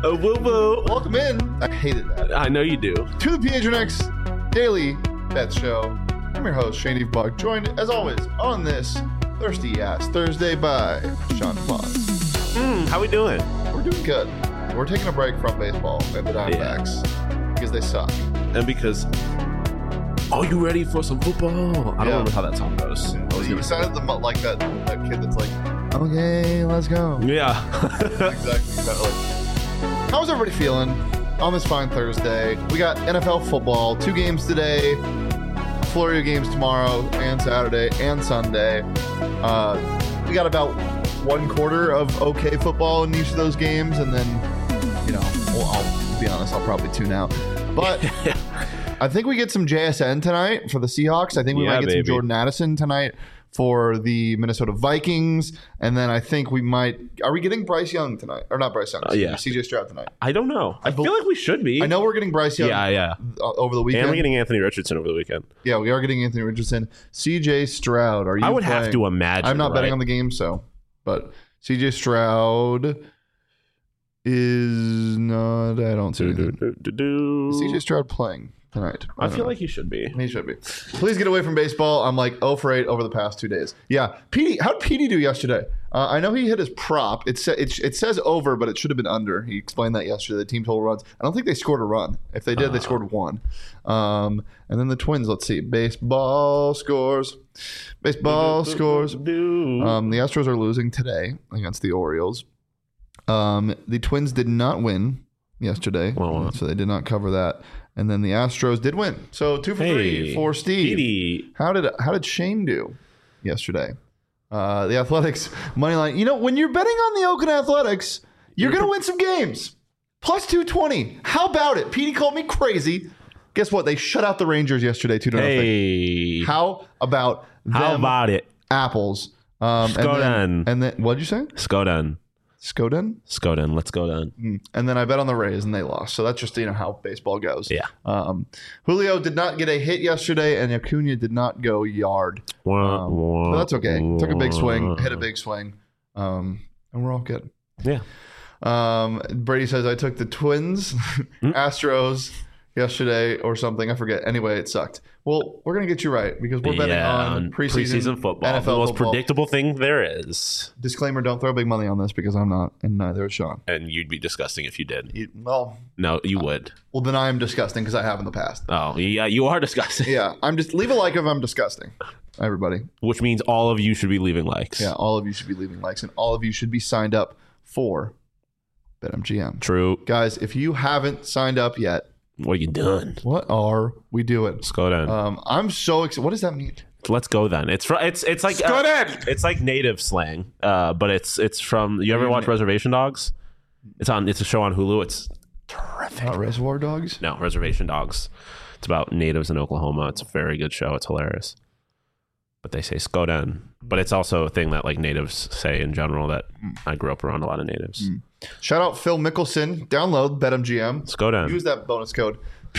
Woo woo. Welcome in. I hated that. I know you do. To the PHNX Daily Bet Show. I'm your host, Shane Eve Buck, joined as always on this Thirsty Ass Thursday by Sean Foss. How we doing? We're doing good. We're taking a break from baseball and the Diamondbacks because they suck. And because, are you ready for some football? I don't remember how that song goes. You sounded like that kid that's like, okay, let's go. Yeah. Exactly. How's everybody feeling on this fine Thursday? We got NFL football, 2 games today, Florida games tomorrow and Saturday and Sunday. We got about 1/4 of okay football in each of those games, and then, I'll be honest, I'll probably tune out. But I think we get some JSN tonight for the Seahawks. I think we might get some Jordan Addison tonight for the Minnesota Vikings. And then I think we might... Are we getting Bryce Young tonight? Or not Bryce Young. Yeah. CJ Stroud tonight. I don't know. I feel like we should be. I know we're getting Bryce Young over the weekend. And we're getting Anthony Richardson over the weekend. Yeah, we are getting Anthony Richardson. CJ Stroud, are you I would playing? have to imagine. I'm not betting on the game, so... But CJ Stroud is not... I don't see anything. CJ Stroud playing tonight. I feel like he should be. He should be. Please get away from baseball. I'm like 0 for 8 over the past 2 days. Yeah. Petey, how did Petey do yesterday? I know he hit his prop. It says over, but it should have been under. He explained that yesterday. The team total runs. I don't think they scored a run. If they did, they scored 1. And then the Twins, let's see. Baseball scores. The Astros are losing today against the Orioles. The Twins did not win yesterday, so they did not cover that. And then the Astros did win. So 2 for 3 for Steve. Petey. How did Shane do yesterday? The Athletics money line. When you're betting on the Oakland Athletics, you're going to win some games. Plus 220. How about it? Petey called me crazy. Guess what? They shut out the Rangers yesterday 2-0. Hey. How about them? How about it? Apples. Skoden. And then what did you say? Skoden. Let's go down. And then I bet on the Rays and they lost. So that's just how baseball goes. Yeah. Julio did not get a hit yesterday, and Acuna did not go yard. But that's okay. Took a big swing, hit a big swing, and we're all good. Yeah. Brady says I took the Twins, Astros yesterday or something. I forget. Anyway, it sucked. Well, we're going to get you right because we're betting on preseason football. NFL the most football. Predictable thing there is. Disclaimer, don't throw big money on this because I'm not, and neither is Sean. And you'd be disgusting if you did. No, you would. Well, then I am disgusting because I have in the past. Oh, yeah, you are disgusting. Yeah, I'm just... Leave a like if I'm disgusting, everybody. Which means all of you should be leaving likes. Yeah, all of you should be leaving likes, and all of you should be signed up for BetMGM. True. Guys, if you haven't signed up yet... What are you doing? What are we doing? Let's go down. I'm so excited. What does that mean? Let's go then. It's like it's like native slang, but it's from. You ever watch Reservation Dogs? It's a show on Hulu. It's terrific. Not Reservoir Dogs? No, Reservation Dogs. It's about natives in Oklahoma. It's a very good show. It's hilarious. But they say Skoden. But it's also a thing that like natives say in general that I grew up around a lot of natives. Shout out Phil Mickelson. Download BetMGM. Skoden. Use that bonus code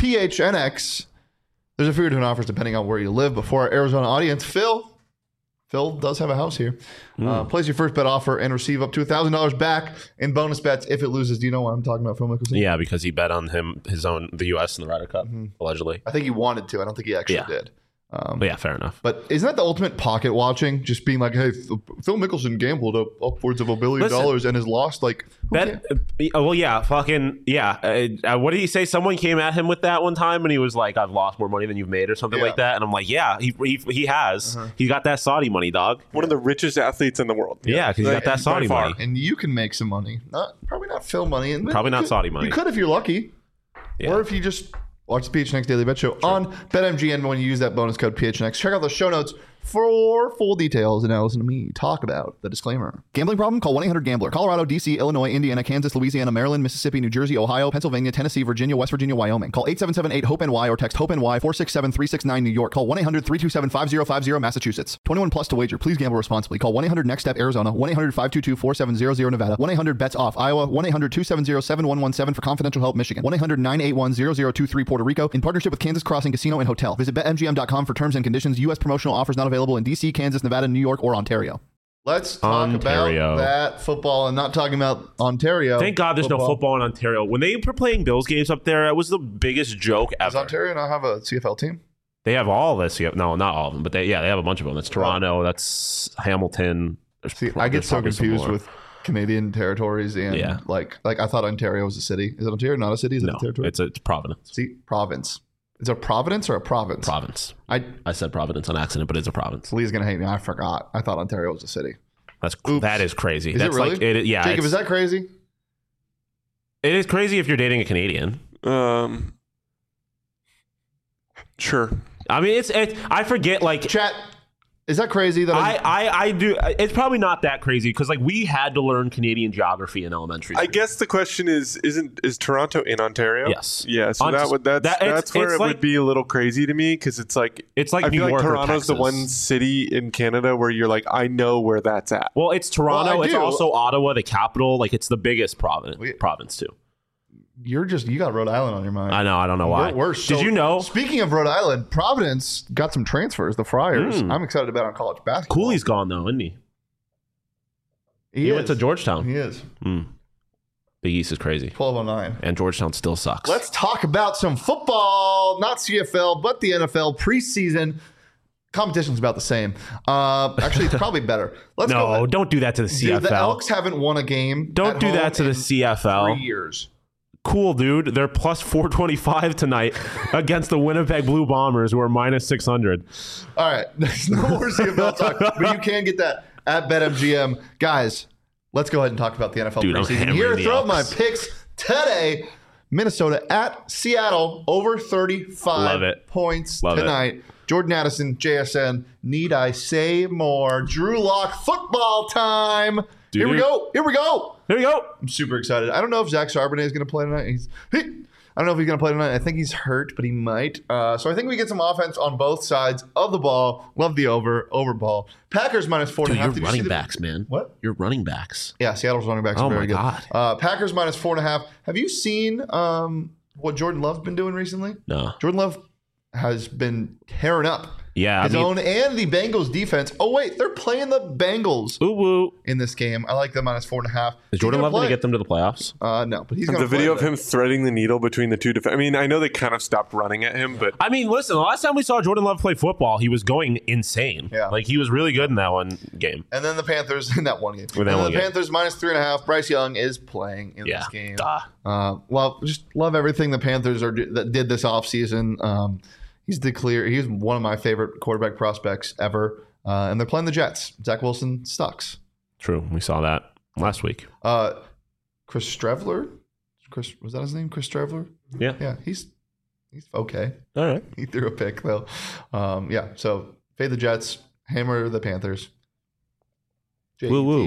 PHNX. There's a few different offers depending on where you live. But for our Arizona audience, Phil does have a house here. Place your first bet offer and receive up to $1,000 back in bonus bets if it loses. Do you know what I'm talking about, Phil Mickelson? Yeah, because he bet on the U.S. in the Ryder Cup, allegedly. I think he wanted to. I don't think he actually did. But yeah, fair enough. But isn't that the ultimate pocket watching? Just being like, hey, Phil Mickelson gambled upwards of $1 billion and has lost like... Well, yeah, fucking, yeah. What did he say? Someone came at him with that one time and he was like, I've lost more money than you've made or something like that. And I'm like, yeah, he has. He got that Saudi money, dog. One of the richest athletes in the world. Yeah, because he got that Saudi money. And you can make some money. Probably not Phil money. And probably not Saudi money. You could if you're lucky. Yeah. Or if you just... watch the PHNX Daily Bet Show on BetMGM when you use that bonus code PHNX. Check out the show notes for full details, and now listen to me talk about the disclaimer. Gambling problem? Call 1-800-GAMBLER. Colorado, D.C., Illinois, Indiana, Kansas, Louisiana, Maryland, Mississippi, New Jersey, Ohio, Pennsylvania, Tennessee, Virginia, West Virginia, Wyoming. Call 877-8-HOPE-NY or text HOPE-NY 467-369 New York. Call 1-800-327-5050 Massachusetts. 21 plus to wager. Please gamble responsibly. Call 1-800-NEXT-STEP Arizona, 1-800-522-4700 Nevada, 1-800-BETS-OFF Iowa, 1-800-270-7117 for confidential help Michigan, 1-800-981-0023 Puerto Rico in partnership with Kansas Crossing Casino and Hotel. Visit BetMGM.com for terms and conditions. U.S. promotional offers not available in D.C., Kansas, Nevada, New York, or Ontario. Let's talk Ontario. about that football and not talking about Ontario. Thank God there's no football in Ontario. When they were playing Bills games up there, it was the biggest joke Does ever. Ontario not have a CFL team? They have all this. No, not all of them, but they have a bunch of them. That's Toronto. That's Hamilton. See, I get so confused with Canadian territories and like I thought Ontario was a city. Is it Ontario not a city? Is it a territory? It's Providence. See, province. Is it a province or a province? Province. I said Providence on accident, but it's a province. Lee's gonna hate me. I forgot. I thought Ontario was a city. That is crazy. Is That's it really? Like, yeah. Jacob, is that crazy? It is crazy if you're dating a Canadian. Sure. I mean, I forget, like, Chat. Is that crazy? That I do. It's probably not that crazy because like we had to learn Canadian geography in elementary school. I guess the question is Toronto in Ontario? Yes. Yeah. So that's where it would be a little crazy to me because it's like I New feel York like or Toronto's the one city in Canada where you're like, I know where that's at. Well, it's Toronto. Well, I it's do. also Ottawa, the capital. Like it's the biggest province too. you got Rhode Island on your mind. I know. I don't know why. Did you know? Speaking of Rhode Island, Providence got some transfers. The Friars. I'm excited about on college basketball. Cooley's gone though, isn't he? He went to Georgetown. He is. Big East is crazy. 1209. And Georgetown still sucks. Let's talk about some football, not CFL, but the NFL preseason. Competition's about the same. Actually, it's probably better. Let's go. No, don't do that to the CFL. Dude, the Elks haven't won a game. Don't do that to the CFL. 3 years. Cool, dude. They're plus 425 tonight against the Winnipeg Blue Bombers, who are minus 600. All right. There's no more CFL talk, but you can get that at BetMGM. Guys, let's go ahead and talk about the NFL preseason. Here, throw up my picks today. Minnesota at Seattle, over 35 points tonight. Jordan Addison, JSN. Need I say more? Drew Lock football time. Here we go. I'm super excited. I don't know if Zach Charbonnet is going to play tonight. I don't know if he's going to play tonight. I think he's hurt, but he might. So I think we get some offense on both sides of the ball. Love the over ball. Packers minus 4.5. Dude, you're running backs, man. What? You're running backs. Yeah, Seattle's running backs are very good. God. Packers minus 4.5. Have you seen what Jordan Love's been doing recently? No. Jordan Love has been tearing up. Yeah, his own and the Bengals defense. Oh wait, they're playing the Bengals in this game. I like them minus 4.5. Is Jordan Love going to get them to the playoffs? No, but he's going to. The video of him threading the needle between the two defense. I mean, I know they kind of stopped running at him, but I mean, listen. The last time we saw Jordan Love play football, he was going insane. Yeah, like he was really good in that one game. And then the Panthers in that one game. Panthers minus 3.5. Bryce Young is playing in this game. Well, just love everything the Panthers that did this offseason. He's one of my favorite quarterback prospects ever. And they're playing the Jets. Zach Wilson sucks. True. We saw that last week. Chris Streveler? Was that his name? Chris Streveler? Yeah. Yeah, he's okay. All right. He threw a pick, though. So fade the Jets, hammer the Panthers. Woo-woo.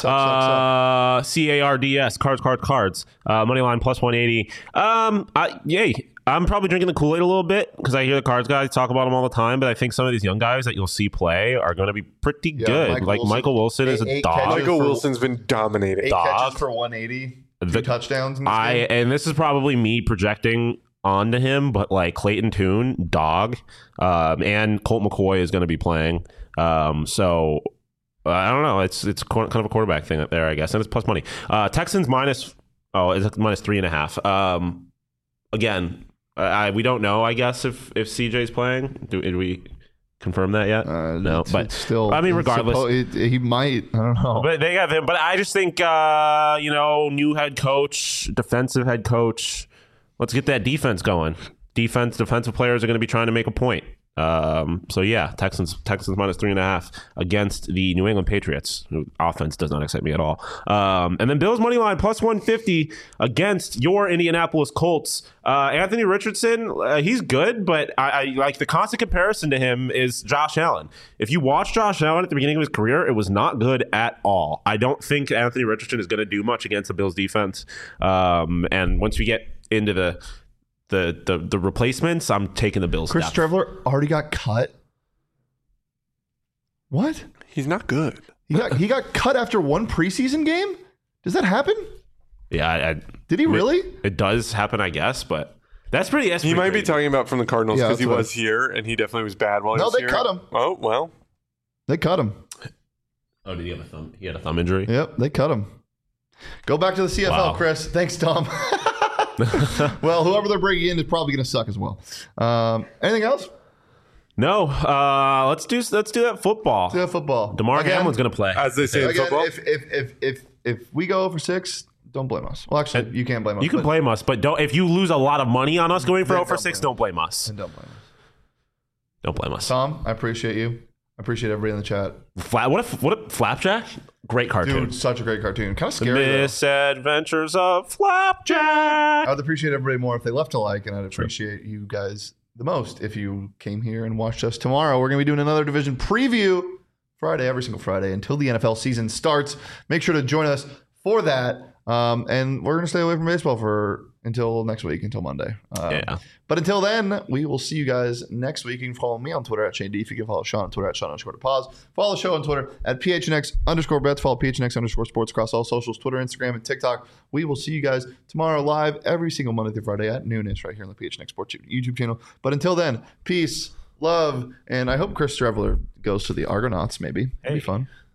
CARDS, cards. Money line plus 180. Yay. I'm probably drinking the Kool-Aid a little bit because I hear the cards guys talk about them all the time, but I think some of these young guys that you'll see play are going to be pretty good. Michael Wilson is a dog. Michael Wilson's been dominating. 8 catches for 180, 2 touchdowns in this game. And this is probably me projecting onto him, but like Clayton Tune, dog, and Colt McCoy is going to be playing. So I don't know. It's kind of a quarterback thing up there, I guess, and it's plus money. Texans it's minus 3.5. Again. We don't know, I guess, if CJ's playing. Did we confirm that yet? No, but still, I mean, regardless, he might. I don't know. But they have him. But I just think, new head coach, defensive head coach. Let's get that defense going. Defensive players are going to be trying to make a point. So yeah, Texans minus 3.5 against the New England Patriots. Offense does not excite me at all. And then Bills money line plus 150 against your Indianapolis Colts. Anthony Richardson, he's good, but I like the constant comparison to him is Josh Allen. If you watch Josh Allen at the beginning of his career, it was not good at all. I don't think Anthony Richardson is going to do much against the Bills defense. And once we get into the replacements, I'm taking the Bills. Chris Streveler already got cut. What? He's not good. He got cut after one preseason game? Does that happen? Yeah. Did he really? It does happen, I guess, but that's pretty He might be talking about from the Cardinals because he was here and he definitely was bad while he was here. No, they cut him. Oh, well. They cut him. Oh, did he have a thumb? He had a thumb injury. Yep, they cut him. Go back to the CFL, Wow. Chris. Thanks, Tom. Well, whoever they're bringing in is probably going to suck as well. Anything else? No. Let's do that football. Yeah, football. DeMar Again- Hamlin's going to play. As they say in Again, football. if we go for 6, don't blame us. Well, actually, you can't blame us. You can but- blame us, but don't. If you lose a lot of money on us going for Then 0 for don't 6, blame don't blame us. And don't blame us. Don't blame us. Tom, I appreciate you. I appreciate everybody in the chat. What a Flapjack? Great cartoon. Dude, such a great cartoon. Kind of scary, though. Misadventures of Flapjack. I would appreciate everybody more if they left a like, and I'd appreciate you guys the most if you came here and watched us tomorrow. We're going to be doing another division preview Friday, every single Friday until the NFL season starts. Make sure to join us for that. And we're going to stay away from baseball until next week, until Monday. Yeah. But until then, we will see you guys next week. You can follow me on Twitter at Shane D. If you can follow Sean on Twitter at Sean_pause. Follow the show on Twitter at PHNX_bets. Follow PHNX_sports across all socials, Twitter, Instagram, and TikTok. We will see you guys tomorrow live every single Monday through Friday at noonish right here on the PHNX Sports YouTube channel. But until then, peace, love, and I hope Chris Streveler goes to the Argonauts maybe. It'd be fun.